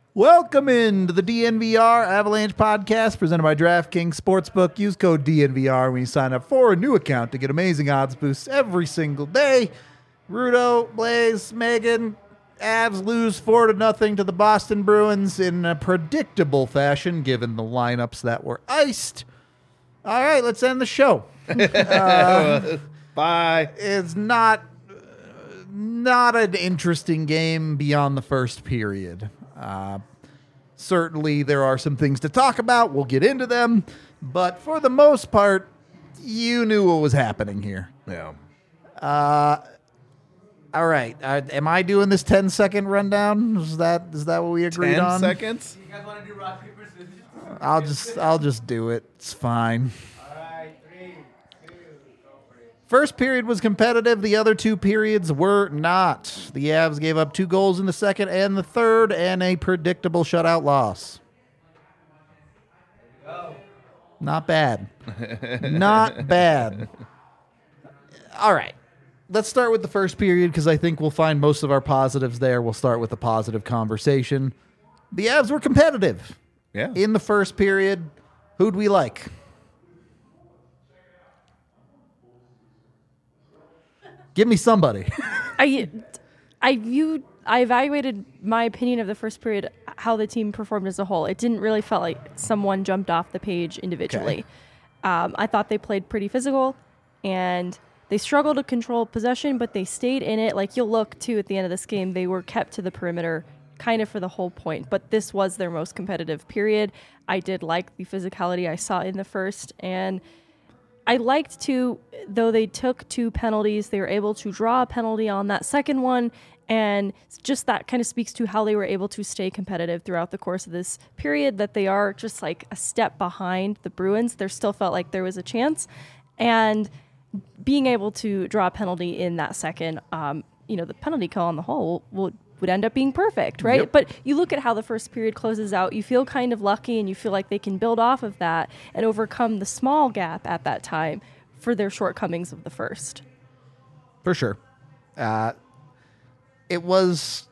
Welcome into the DNVR Avalanche podcast presented by DraftKings Sportsbook. Use code DNVR when you sign up for a new account to get amazing odds boosts every single day. Rudo, Blaze, Megan, Avs lose 4-0 to the Boston Bruins in a predictable fashion given the lineups that were iced. All right, let's end the show. Bye. It's not an interesting game beyond the first period. Certainly there are some things to talk about. We'll get into them. But for the most part, you knew what was happening here. Yeah. All right. Am I doing this 10-second rundown? Is that what we agreed 10 on? 10 seconds? You guys want to do rock, paper, scissors? I'll just do it. It's fine. All right, 3, 2, go for it. First period was competitive. The other two periods were not. The Avs gave up 2 goals in the second and the third and a predictable shutout loss. Go. Not bad. Not bad. All right. Let's start with the first period because I think we'll find most of our positives there. We'll start with a positive conversation. The Avs were competitive. Yeah. In the first period, who'd we like? Give me somebody. I evaluated my opinion of the first period, how the team performed as a whole. It didn't really felt like someone jumped off the page individually. Okay. I thought they played pretty physical, and they struggled to control possession, but they stayed in it. Like, you'll look, too, at the end of this game, they were kept to the perimeter kind of for the whole point. But this was their most competitive period. I did like the physicality I saw in the first, and I liked, too, though they took 2 penalties, they were able to draw a penalty on that second one, and just that kind of speaks to how they were able to stay competitive throughout the course of this period, that they are just like a step behind the Bruins. There still felt like there was a chance, and being able to draw a penalty in that second, the penalty kill on the whole would end up being perfect, right? Yep. But you look at how the first period closes out, you feel kind of lucky, and you feel like they can build off of that and overcome the small gap at that time for their shortcomings of the first. For sure. It was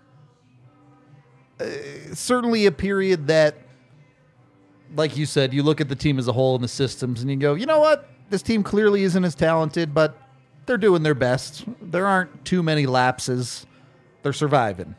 certainly a period that, like you said, you look at the team as a whole and the systems and you go, you know what? This team clearly isn't as talented, but they're doing their best. There aren't too many lapses. They're surviving.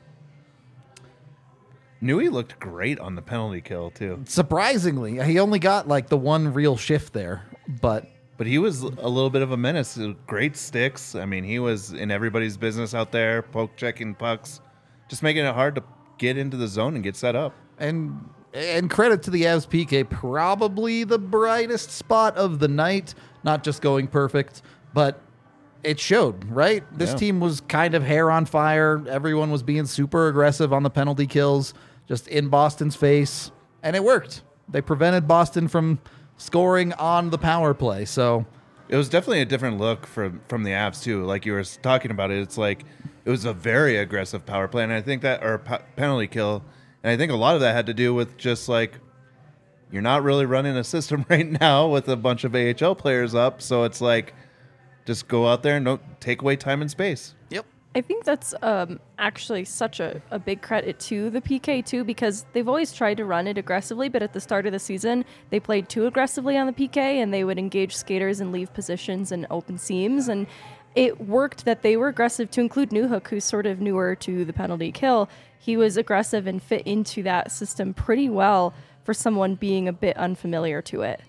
Nui looked great on the penalty kill, too. Surprisingly, he only got like the one real shift there, but he was a little bit of a menace. Great sticks. I mean, he was in everybody's business out there, poke checking pucks, just making it hard to get into the zone and get set up. And credit to the Avs PK, probably the brightest spot of the night. Not just going perfect, but it showed, right? This team was kind of hair on fire. Everyone was being super aggressive on the penalty kills, just in Boston's face, and it worked. They prevented Boston from scoring on the power play, so it was definitely a different look from the Avs, too. Like you were talking about it, it's like it was a very aggressive power play, and I think that, or penalty kill, and I think a lot of that had to do with just like, you're not really running a system right now with a bunch of AHL players up, so it's like, just go out there and don't take away time and space. Yep. I think that's actually such a big credit to the PK, too, because they've always tried to run it aggressively, but at the start of the season, they played too aggressively on the PK, and they would engage skaters and leave positions and open seams, and it worked that they were aggressive, to include Newhook, who's sort of newer to the penalty kill. He was aggressive and fit into that system pretty well for someone being a bit unfamiliar to it.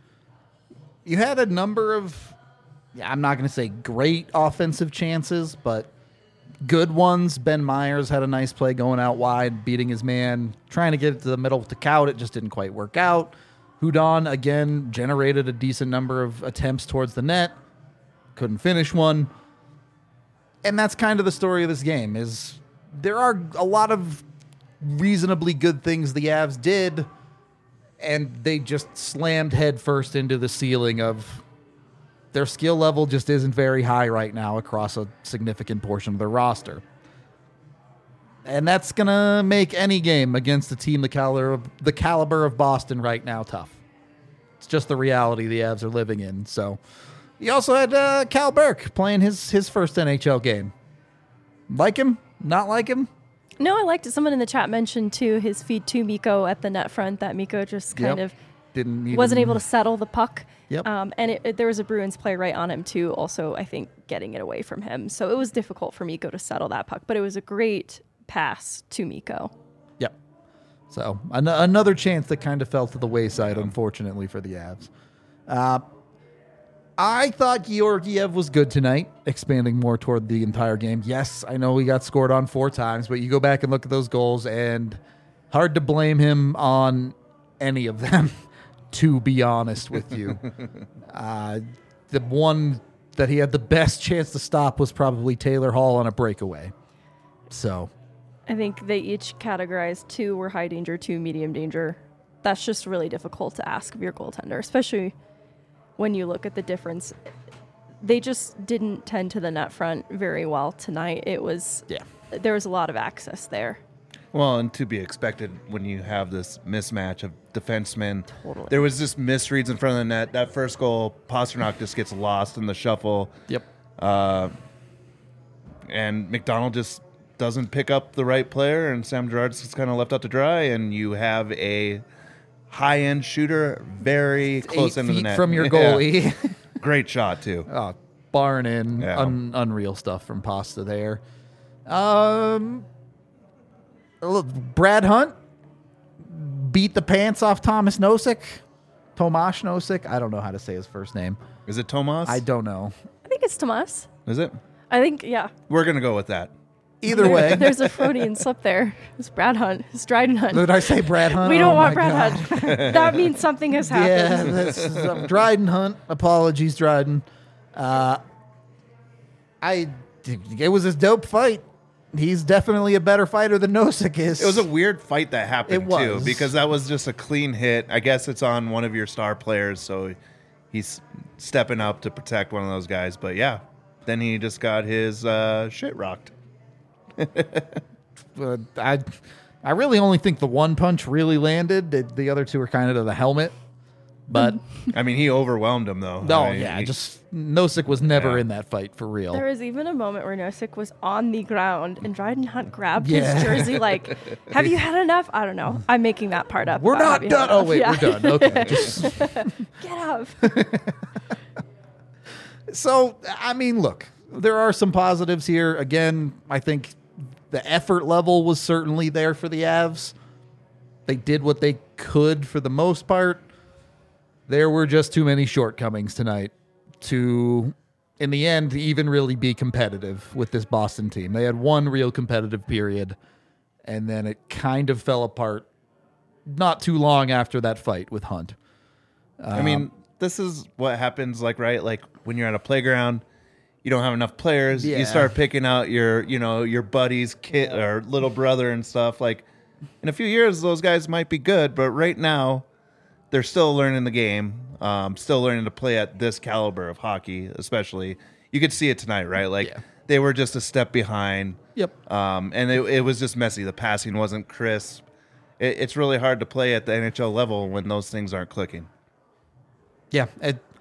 You had a number of, I'm not going to say great offensive chances, but good ones. Ben Myers had a nice play going out wide, beating his man, trying to get it to the middle to Kaut. It just didn't quite work out. Hudon, again, generated a decent number of attempts towards the net. Couldn't finish one. And that's kind of the story of this game, is there are a lot of reasonably good things the Avs did, and they just slammed headfirst into the ceiling of their skill level just isn't very high right now across a significant portion of their roster. And that's going to make any game against a team the caliber of Boston right now tough. It's just the reality the Avs are living in. So you also had Cal Burke playing his first NHL game. Like him? Not like him? No, I liked it. Someone in the chat mentioned too his feed to Miko at the net front, that Miko just kind of wasn't able to settle the puck. Yep. And there was a Bruins player right on him too, also I think getting it away from him. So it was difficult for Miko to settle that puck, but it was a great pass to Miko. Yep. So another chance that kind of fell to the wayside, unfortunately, for the Avs. I thought Georgiev was good tonight, expanding more toward the entire game. Yes, I know he got scored on 4 times, but you go back and look at those goals, and hard to blame him on any of them, to be honest with you. The one that he had the best chance to stop was probably Taylor Hall on a breakaway. So I think they each categorized 2 were high danger, 2 medium danger. That's just really difficult to ask of your goaltender, especially when you look at the difference. They just didn't tend to the net front very well tonight. There was a lot of access there. Well, and to be expected when you have this mismatch of defensemen. Totally. There was just misreads in front of the net. That first goal, Pasternak just gets lost in the shuffle. Yep. And McDonald just doesn't pick up the right player, and Sam Girard's just kind of left out to dry, and you have a high-end shooter very close 8 into the feet net. from your goalie. Yeah. Great shot, too. Oh, barn in. Yeah. Unreal stuff from Pasta there. Brad Hunt beat the pants off Thomas Nosek. Tomasz Nosek. I don't know how to say his first name. Is it Tomas? I don't know. I think it's Tomas. Is it? I think, yeah. We're going to go with that. Either way. There's a Freudian slip there. It's Brad Hunt. It's Dryden Hunt. Did I say Brad Hunt? We don't Oh want my Brad God. Hunt. That means something has happened. Yeah, that's Dryden Hunt. Apologies, Dryden. It was a dope fight. He's definitely a better fighter than Nosek is. It was a weird fight that happened, It was. too, because that was just a clean hit. I guess it's on one of your star players, so he's stepping up to protect one of those guys. But, yeah, then he just got his shit rocked. I really only think the one punch really landed. The other 2 were kind of to the helmet. But I mean, he overwhelmed him, though. no, I mean, yeah, just Nosek was never Yeah. in that fight for real. There was even a moment where Nosek was on the ground and Dryden Hunt grabbed Yeah. his jersey like, have you had enough? I don't know. I'm making that part up. We're about not have you done. had Oh enough? wait, Yeah. we're done. Okay. Just- Get up. So, I mean, look, there are some positives here. Again, I think the effort level was certainly there for the Avs. They did what they could for the most part. There were just too many shortcomings tonight to, in the end, even really be competitive with this Boston team. They had one real competitive period, and then it kind of fell apart not too long after that fight with Hunt. I mean, this is what happens, right? Like when you're at a playground, you don't have enough players. Yeah. You start picking out your buddy's kid or little brother and stuff. Like in a few years, those guys might be good, but right now, they're still learning the game, still learning to play at this caliber of hockey, especially. You could see it tonight, right? Like they were just a step behind. Yep. And it was just messy. The passing wasn't crisp. It's really hard to play at the NHL level when those things aren't clicking. Yeah,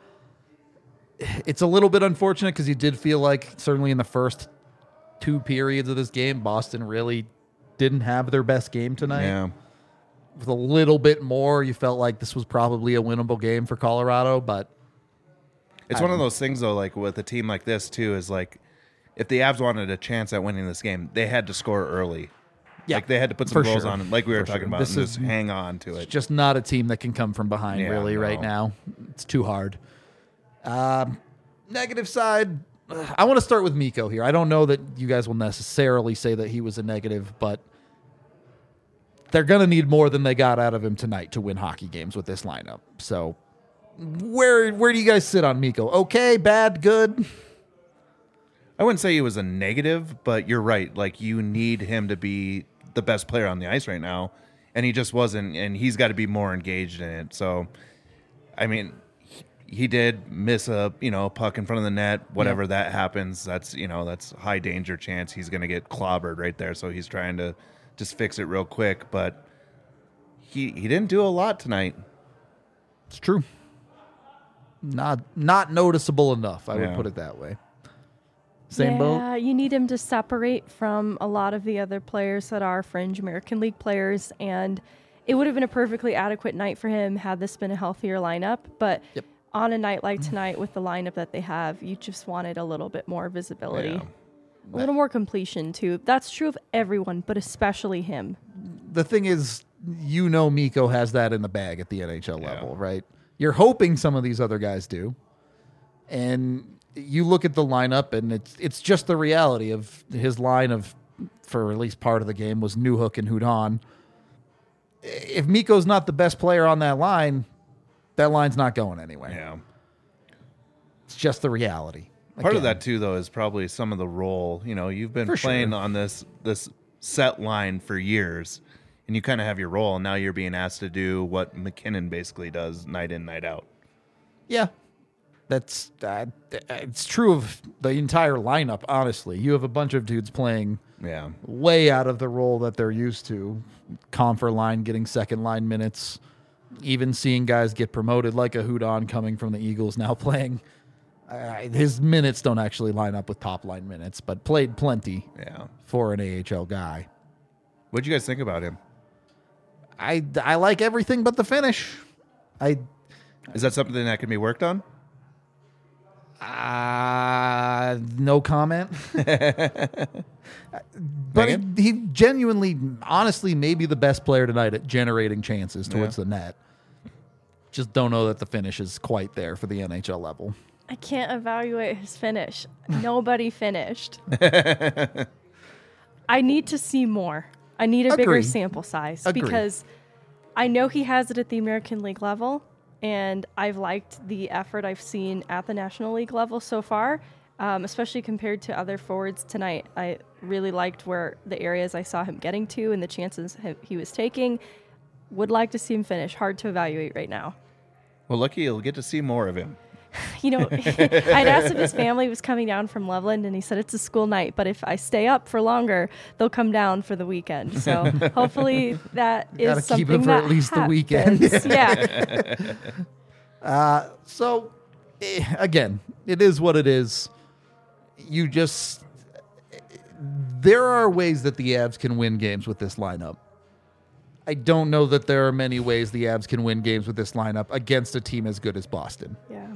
it's a little bit unfortunate because you did feel like certainly in the first 2 periods of this game, Boston really didn't have their best game tonight. Yeah. With a little bit more, you felt like this was probably a winnable game for Colorado, but It's one of those things, though, like with a team like this, too, is like if the Avs wanted a chance at winning this game, they had to score early. yeah, Like they had to put some for goals sure. on, like we were For talking sure. about, This and is just hang on to it. just not a team that can come from behind Yeah, really right no. now. It's too hard. Negative side, I want to start with Miko here. I don't know that you guys will necessarily say that he was a negative, but they're going to need more than they got out of him tonight to win hockey games with this lineup. So where do you guys sit on Miko? Okay, bad, good? I wouldn't say he was a negative, but you're right. Like you need him to be the best player on the ice right now, and he just wasn't. And he's got to be more engaged in it. So, I mean, he did miss a puck in front of the net. Whatever that happens, that's high danger chance he's going to get clobbered right there. So he's trying to just fix it real quick. But he didn't do a lot tonight. It's true. Not noticeable enough, I would Yeah. put it that way. Same boat? Yeah, you need him to separate from a lot of the other players that are fringe American League players, and it would have been a perfectly adequate night for him had this been a healthier lineup. But Yep. on a night like tonight with the lineup that they have, you just wanted a little bit more visibility. Yeah. A little more completion, too. That's true of everyone, but especially him. The thing is, Miko has that in the bag at the NHL Yeah. level, right? You're hoping some of these other guys do. And you look at the lineup, and it's just the reality of his line of, for at least part of the game, was Newhook and Hudon. If Miko's not the best player on that line's not going anywhere. Yeah. It's just the reality. Part of Again, that too, though, is probably some of the role. You've been For playing sure. on this set line for years, and you kind of have your role. And now you're being asked to do what McKinnon basically does night in, night out. Yeah. That's it's true of the entire lineup, honestly. You have a bunch of dudes playing Yeah. way out of the role that they're used to. Confer line getting second line minutes, even seeing guys get promoted like a Hudon coming from the Eagles now playing. His minutes don't actually line up with top line minutes, but played plenty Yeah. for an AHL guy. What'd you guys think about him? I like everything but the finish. Is that something that can be worked on? No comment. But Megan? he genuinely, honestly, may be the best player tonight at generating chances towards Yeah. the net. Just don't know that the finish is quite there for the NHL level. I can't evaluate his finish. Nobody finished. I need to see more. I need a bigger Agree. sample size Agree. because I know he has it at the American League level, and I've liked the effort I've seen at the National League level so far, especially compared to other forwards tonight. I really liked where the areas I saw him getting to and the chances he was taking. Would like to see him finish. Hard to evaluate right now. Well, lucky you'll get to see more of him. You know, I'd asked if his family was coming down from Loveland, and he said it's a school night, but if I stay up for longer, they'll come down for the weekend. So hopefully that Gotta is something keep him for that at least the weekend. happens. Yeah. So, again, it is what it is. There are ways that the Avs can win games with this lineup. I don't know that there are many ways the Avs can win games with this lineup against a team as good as Boston. Yeah.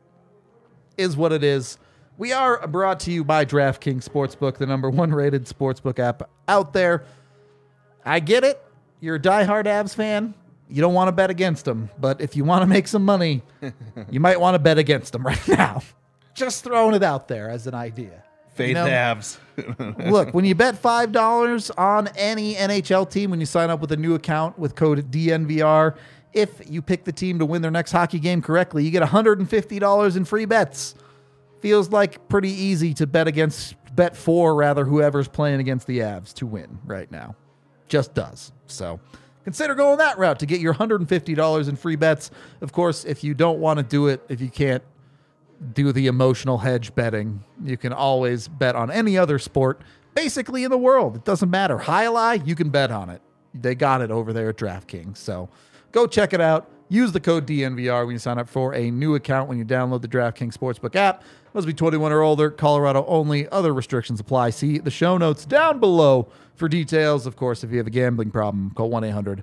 Is what it is. We are brought to you by DraftKings Sportsbook, the #1 rated sportsbook app out there. I get it. You're a diehard Avs fan. You don't want to bet against them. But if you want to make some money, you might want to bet against them right now. Just throwing it out there as an idea. Faith You know, Avs. Look, when you bet $5 on any NHL team, when you sign up with a new account with code DNVR, if you pick the team to win their next hockey game correctly, you get $150 in free bets. Feels like pretty easy to bet for whoever's playing against the Avs to win right now. Just does. So consider going that route to get your $150 in free bets. Of course, if you don't want to do it, if you can't do the emotional hedge betting, you can always bet on any other sport basically in the world. It doesn't matter. Highlight, you can bet on it. They got it over there at DraftKings. So go check it out. Use the code DNVR when you sign up for a new account when you download the DraftKings Sportsbook app. Must be 21 or older. Colorado only. Other restrictions apply. See the show notes down below for details. Of course, if you have a gambling problem, call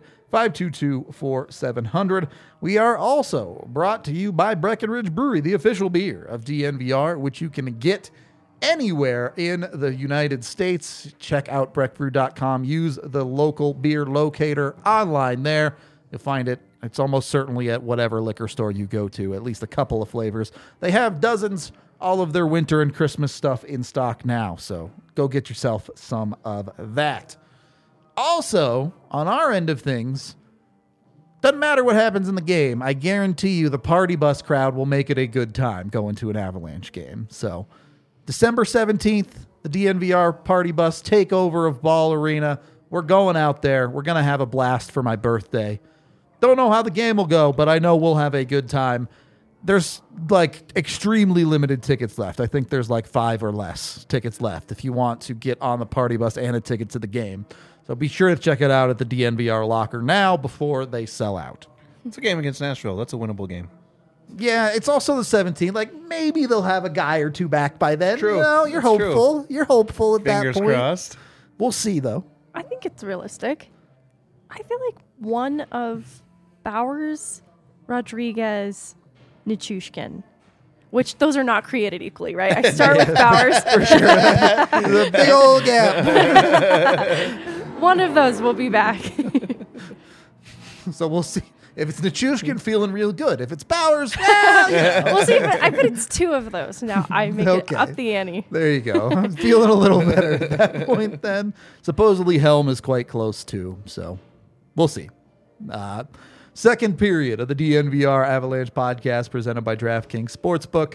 1-800-522-4700. We are also brought to you by Breckenridge Brewery, the official beer of DNVR, which you can get anywhere in the United States. Check out breckbrew.com. Use the local beer locator online there. You'll find it. It's almost certainly at whatever liquor store you go to, at least a couple of flavors. They have dozens, all of their winter and Christmas stuff in stock now, so go get yourself some of that. Also, on our end of things, doesn't matter what happens in the game, I guarantee you the party bus crowd will make it a good time going to an Avalanche game. So, December 17th, the DNVR party bus takeover of Ball Arena. We're going out there. We're going to have a blast for my birthday. Don't know how the game will go, but I know we'll have a good time. There's extremely limited tickets left. I think there's 5 or less tickets left if you want to get on the party bus and a ticket to the game. So be sure to check it out at the DNVR locker now before they sell out. It's a game against Nashville. That's a winnable game. Yeah, it's also the 17th. Like, maybe they'll have a guy or two back by then. True. You know, you're That's true. hopeful. You're hopeful at Fingers that point. crossed. We'll see, though. I think it's realistic. I feel like one of Bowers, Rodriguez, Nichushkin, which those are not created equally, right? I start with Bowers. For sure. The big old gap. One of those will be back. So we'll see. If it's Nichushkin, feeling real good. If it's Bowers, well, yeah. We'll see. But I bet it's two of those. Now I make Okay. it up the ante. There you go. I'm feeling a little better at that point then. Supposedly Helm is quite close too, so we'll see. Second period of the DNVR Avalanche podcast presented by DraftKings Sportsbook.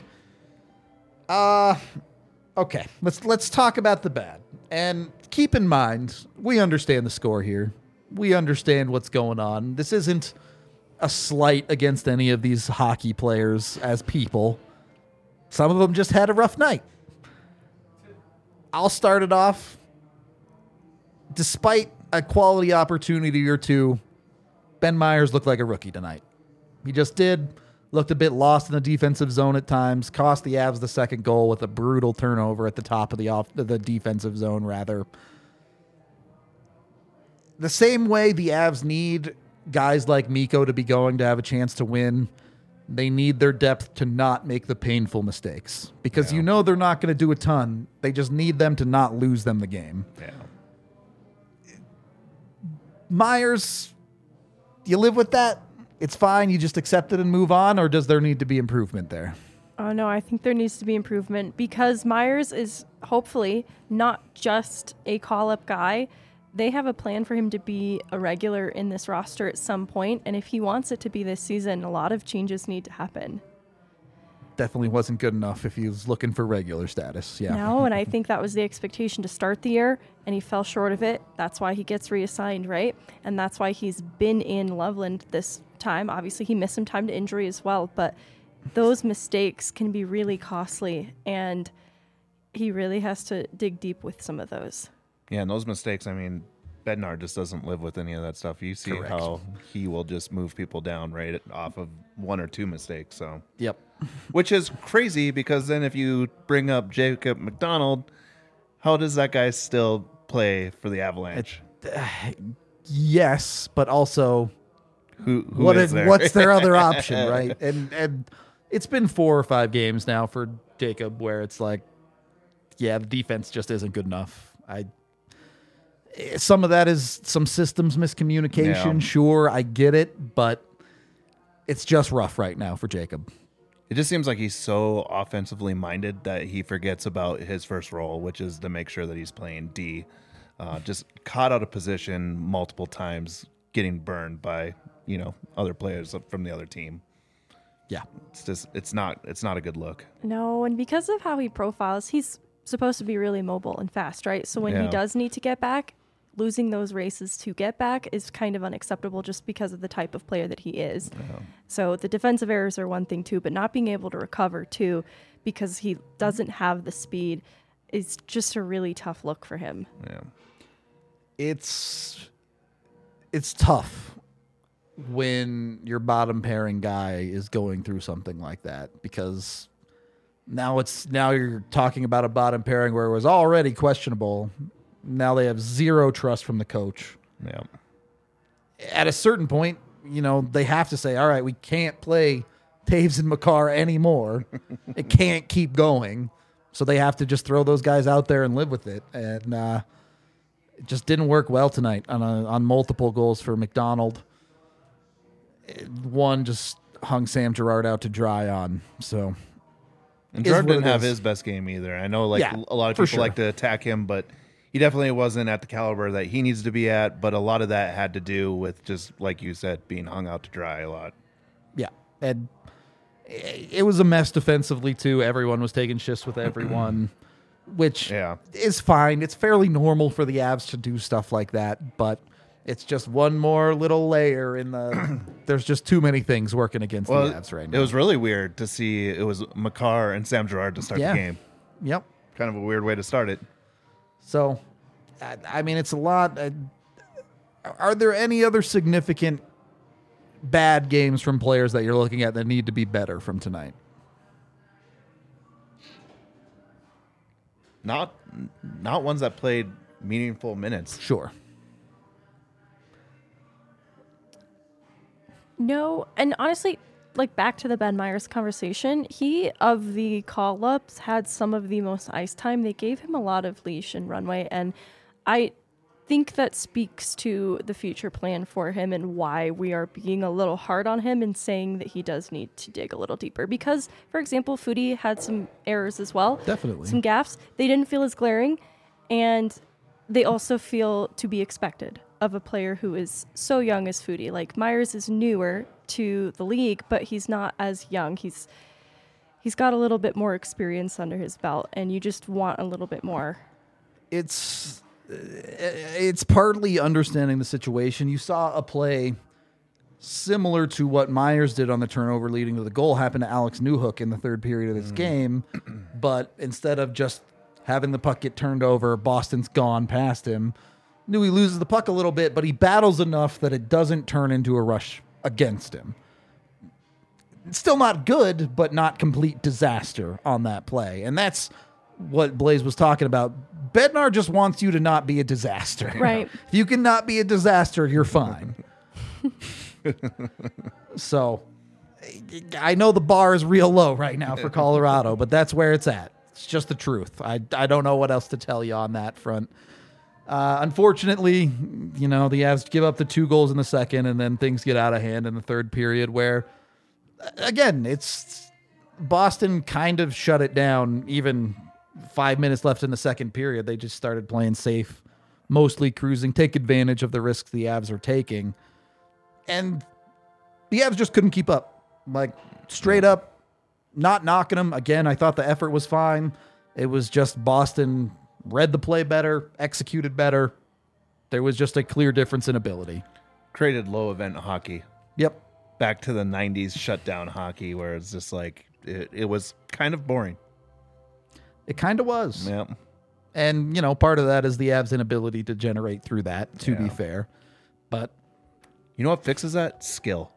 Okay, let's talk about the bad. And keep in mind, we understand the score here. We understand what's going on. This isn't a slight against any of these hockey players as people. Some of them just had a rough night. I'll start it off. Despite a quality opportunity or two, Ben Myers looked like a rookie tonight. He just did. Looked a bit lost in the defensive zone at times. Cost the Avs the second goal with a brutal turnover at the top of the defensive zone, rather. The same way the Avs need guys like Mikko to be going to have a chance to win, they need their depth to not make the painful mistakes. Because you know they're not going to do a ton. They just need them to not lose them the game. Yeah. Myers, you live with that? It's fine, you just accept it and move on, or does there need to be improvement there? Oh, no, I think there needs to be improvement because Myers is hopefully not just a call-up guy. They have a plan for him to be a regular in this roster at some point, and if he wants it to be this season, a lot of changes need to happen. Definitely wasn't good enough if he was looking for regular status. Yeah. No, and I think that was the expectation to start the year, and he fell short of it. That's why he gets reassigned, right? And that's why he's been in Loveland this time. Obviously, he missed some time to injury as well, but those mistakes can be really costly, and he really has to dig deep with some of those. Yeah, and those mistakes, I mean, Bednar just doesn't live with any of that stuff. You see how he will just move people down right off of one or two mistakes. So, Yep. which is crazy because then if you bring up Jacob McDonald, how does that guy still play for the Avalanche? Yes, but also Who what's is there? their other option, right? And it's been 4 or 5 games now for Jacob where it's like, yeah, the defense just isn't good enough. Some of that is some systems miscommunication. Yeah. Sure, I get it, but it's just rough right now for Jacob. It just seems like he's so offensively minded that he forgets about his first role, which is to make sure that he's playing D. Just caught out of position multiple times, getting burned by other players from the other team. Yeah. It's not a good look. No, and because of how he profiles, he's supposed to be really mobile and fast, right? So when he Yeah. does need to get back, losing those races to get back is kind of unacceptable just because of the type of player that he is. So the defensive errors are one thing too, but not being able to recover too because he doesn't have the speed is just a really tough look for him. Yeah. It's tough when your bottom pairing guy is going through something like that because now you're talking about a bottom pairing where it was already questionable. Now they have zero trust from the coach. Yeah. At a certain point, they have to say, all right, we can't play Taves and Makar anymore. It can't keep going. So they have to just throw those guys out there and live with it. And it just didn't work well tonight on multiple goals for McDonald. One just hung Sam Girard out to dry on. So, And is Jordan what didn't it have is. his best game either. I know, Yeah, a lot of for people sure. like to attack him, but he definitely wasn't at the caliber that he needs to be at. But a lot of that had to do with just, like you said, being hung out to dry a lot. yeah. And it was a mess defensively, too. Everyone was taking shifts with everyone, which Yeah. is fine. It's fairly normal for the Avs to do stuff like that, but it's just one more little layer in the... There's just too many things working against the Avs right now. It was really weird to see it was Makar and Sam Girard to start Yeah. the game. Yep. Kind of a weird way to start it. So, I mean, it's a lot. Are there any other significant bad games from players that you're looking at that need to be better from tonight? Not ones that played meaningful minutes. Sure. No, and honestly, like back to the Ben Myers conversation, he of the call ups had some of the most ice time. They gave him a lot of leash and runway, and I think that speaks to the future plan for him and why we are being a little hard on him and saying that he does need to dig a little deeper. Because, for example, Foodie had some errors as well. Definitely. Some gaffes. They didn't feel as glaring, and they also feel to be expected of a player who is so young as Foodie. Like, Myers is newer to the league, but he's not as young. He's got a little bit more experience under his belt, and you just want a little bit more. It's partly understanding the situation. You saw a play similar to what Myers did on the turnover leading to the goal happen to Alex Newhook in the third period of this game, but instead of just having the puck get turned over, Boston's gone past him. He loses the puck a little bit, but he battles enough that it doesn't turn into a rush against him. It's still not good, but not complete disaster on that play. And that's what Blaze was talking about. Bednar just wants you to not be a disaster. Right. If you can not be a disaster, you're fine. So I know the bar is real low right now for Colorado, but that's where it's at. It's just the truth. I don't know what else to tell you on that front. Unfortunately, the Avs give up the 2 goals in the second, and then things get out of hand in the third period where, again, it's Boston kind of shut it down. Even 5 minutes left in the second period, they just started playing safe, mostly cruising, take advantage of the risks the Avs are taking. And the Avs just couldn't keep up. Like, straight up, not knocking them. Again, I thought the effort was fine. It was just Boston read the play better, executed better. There was just a clear difference in ability. Created low event hockey. Yep. Back to the 90s shutdown hockey where it's just like, it was kind of boring. It kind of was. Yeah. And, part of that is the Avs' inability to generate through that, to be fair. But you know what fixes that? Skill.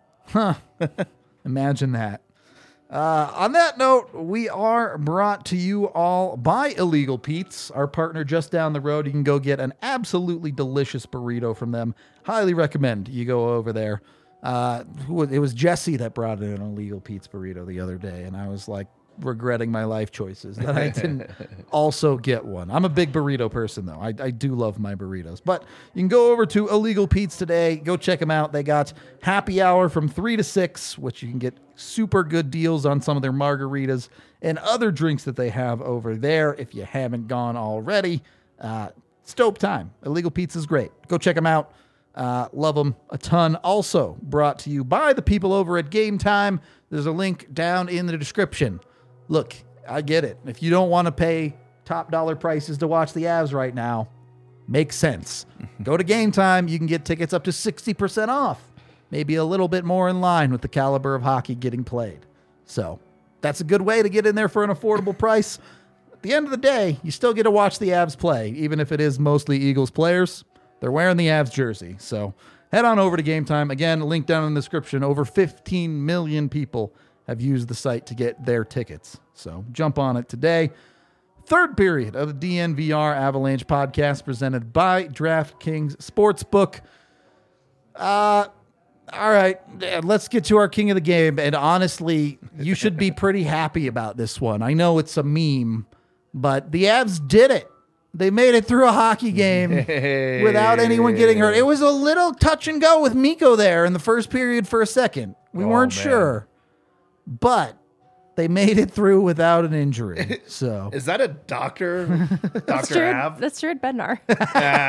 imagine that. On that note, we are brought to you all by Illegal Pete's, our partner just down the road. You can go get an absolutely delicious burrito from them. Highly recommend you go over there. It was Jesse that brought in an Illegal Pete's burrito the other day, and I was like regretting my life choices that I didn't also get one. I'm a big burrito person, though. I do love my burritos. But you can go over to Illegal Pete's today. Go check them out. They got happy hour from 3 to 6, which you can get super good deals on some of their margaritas and other drinks that they have over there. If you haven't gone already, it's dope time. Illegal Pete's is great. Go check them out. Love them a ton. Also brought to you by the people over at Game Time. There's a link down in the description. Look, I get it. If you don't want to pay top dollar prices to watch the Avs right now, makes sense. Go to Game Time. You can get tickets up to 60% off. Maybe a little bit more in line with the caliber of hockey getting played. So that's a good way to get in there for an affordable price. At the end of the day, you still get to watch the Avs play, even if it is mostly Eagles players. They're wearing the Avs jersey. So head on over to Game Time. Again, link down in the description. Over 15 million people have used the site to get their tickets. So jump on it today. Third period of the DNVR Avalanche podcast presented by DraftKings Sportsbook. All right, let's get to our king of the game. And honestly, you should be pretty happy about this one. I know it's a meme, but the Avs did it. They made it through a hockey game without anyone getting hurt. It was a little touch and go with Mikko there in the first period for a second. We weren't sure, but they made it through without an injury. So Is that a doctor? Dr. Av? That's Jared Bednar. I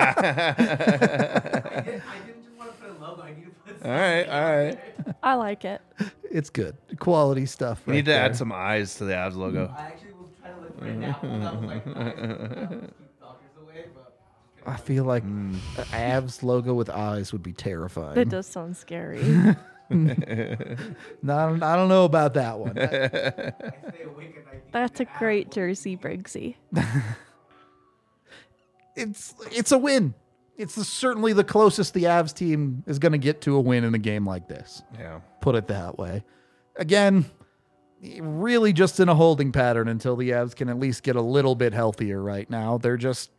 didn't just want to put a logo. I need to put All right. I like it. it's good. Quality stuff. We need to add some eyes to the Avs logo. I actually was trying to look for an apple. I was like, keep doctors away, but I feel like Avs logo with eyes would be terrifying. That does sound scary. No, I don't know about that one. I stay awake at night. That's a great jersey, Briggsy. It's a win. certainly the closest the Avs team is going to get to a win in a game like this. Yeah. Put it that way. Again, really just in a holding pattern until the Avs can at least get a little bit healthier right now. They're just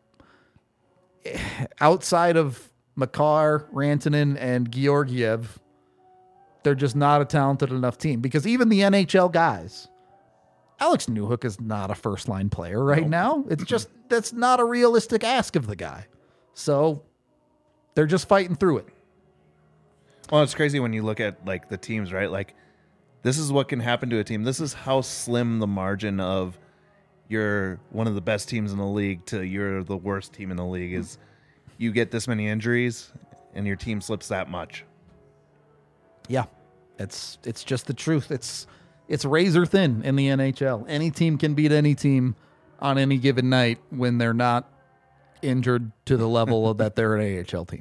outside of Makar, Rantanen, and Georgiev, they're just not a talented enough team because even the NHL guys, Alex Newhook is not a first-line player right now. It's just, that's not a realistic ask of the guy. So they're just fighting through it. Well, it's crazy when you look at like the teams, right? Like this is what can happen to a team. This is how slim the margin of you're one of the best teams in the league to you're the worst team in the league is. You get this many injuries and your team slips that much. Yeah, it's just the truth. It's razor thin in the NHL. Any team can beat any team on any given night when they're not injured to the level that they're an AHL team.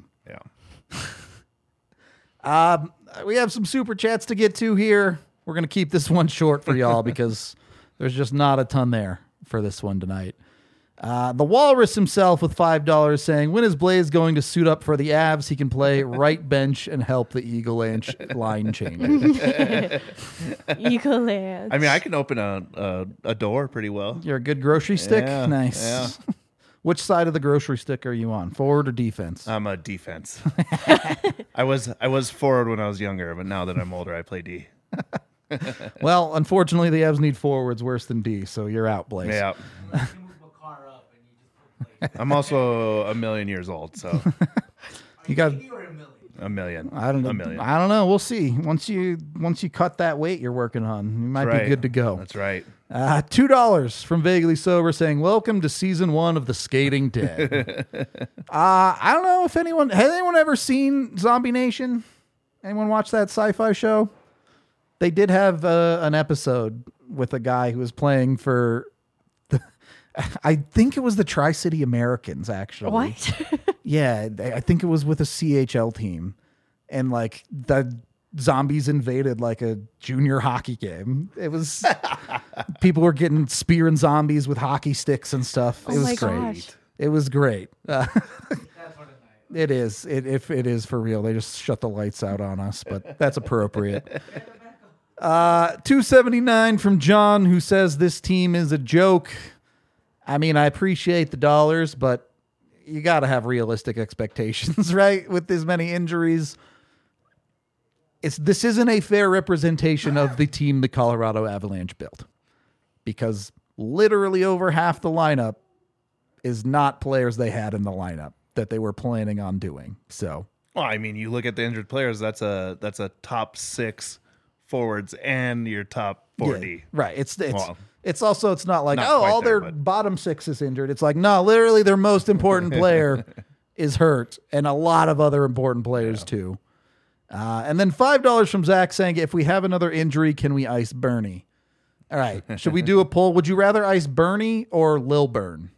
Yeah. We have some super chats to get to here. We're going to keep this one short for y'all because there's just not a ton there for this one tonight. The Walrus himself with $5 saying, when is Blaze going to suit up for the Avs? He can play right bench and help the Eagle line change. Eagle Land. I mean, I can open a door pretty well. You're a good grocery stick? Yeah, Nice. yeah. Which side of the grocery stick are you on? Forward or defense? I'm a defense. I was forward when I was younger, but now that I'm older, I play D. Well, unfortunately, the Avs need forwards worse than D, so you're out, Blaze. Yeah. You move Makar up and you just put Blaze. I'm also a million years old, so You got... 80 or a million? a million. I don't know. A million. I don't know. We'll see. Once you cut that weight you're working on, you might That's be right. good to go. That's right. $2 from Vaguely Sober saying, welcome to season 1 of The Skating Dead. I don't know if has anyone ever seen Zombie Nation? Anyone watch that sci-fi show? They did have an episode with a guy who was playing for I think it was the Tri-City Americans, actually. What? Yeah, I think it was with a CHL team. And like the zombies invaded like a junior hockey game. It was people were getting spearing zombies with hockey sticks and stuff. Oh It was my great. gosh. It was great. That's what a night. It is. If it is for real, they just shut the lights out on us, but that's appropriate. 279 from John, who says this team is a joke. I mean, I appreciate the dollars, but you got to have realistic expectations, right? With this many injuries, this isn't a fair representation of the team the Colorado Avalanche built, because literally over half the lineup is not players they had in the lineup that they were planning on doing. So, Well, I mean, you look at the injured players. That's a top 6 forwards and your top 40. yeah, right. It's Well, it's not like, not oh, quite all there, their but- bottom 6 is injured. It's like, no, literally their most important player is hurt, and a lot of other important players too. And then $5 from Zach saying, if we have another injury, can we ice Bernie? All right. Should we do a poll? Would you rather ice Bernie or Lil Burn?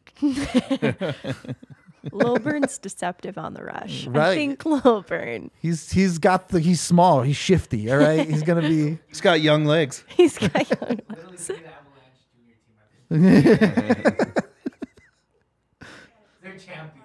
Lilburn's deceptive on the rush. I Right. think Lilburn. He's small. He's shifty. All right. He's going to be. he's got young legs. He's got young Literally be the Avalanche junior team. They're champions.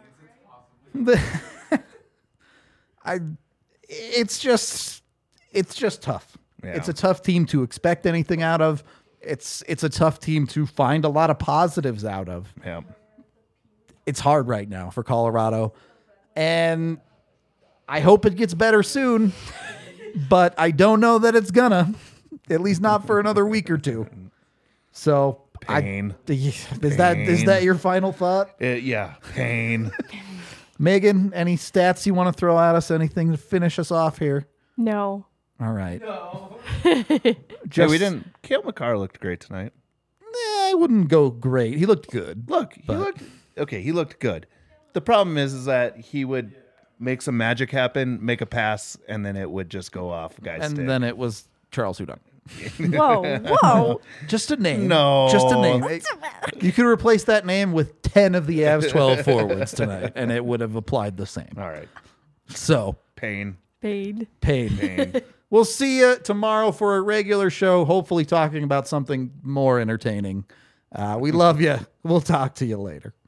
It's possible. It's just tough. Yeah. It's a tough team to expect anything out of. It's a tough team to find a lot of positives out of. Yeah. It's hard right now for Colorado, and I hope it gets better soon, but I don't know that it's gonna, at least not for another week or two. So Pain. is that your final thought? Yeah. Pain. Megan, any stats you want to throw at us? Anything to finish us off here? No. All right. No. Yeah, we didn't. Kale McCarr looked great tonight. I wouldn't go great. He looked good. Look, he looked good. The problem is that he would make some magic happen, make a pass, and then it would just go off guy's stick. And then it was Charles Hudon. Whoa. Whoa. Just a name. No. Just a name. You could replace that name with 10 of the Avs 12 forwards tonight, and it would have applied the same. All right. So, Pain. Paid. pain. We'll see you tomorrow for a regular show, hopefully talking about something more entertaining. We love you. We'll talk to you later.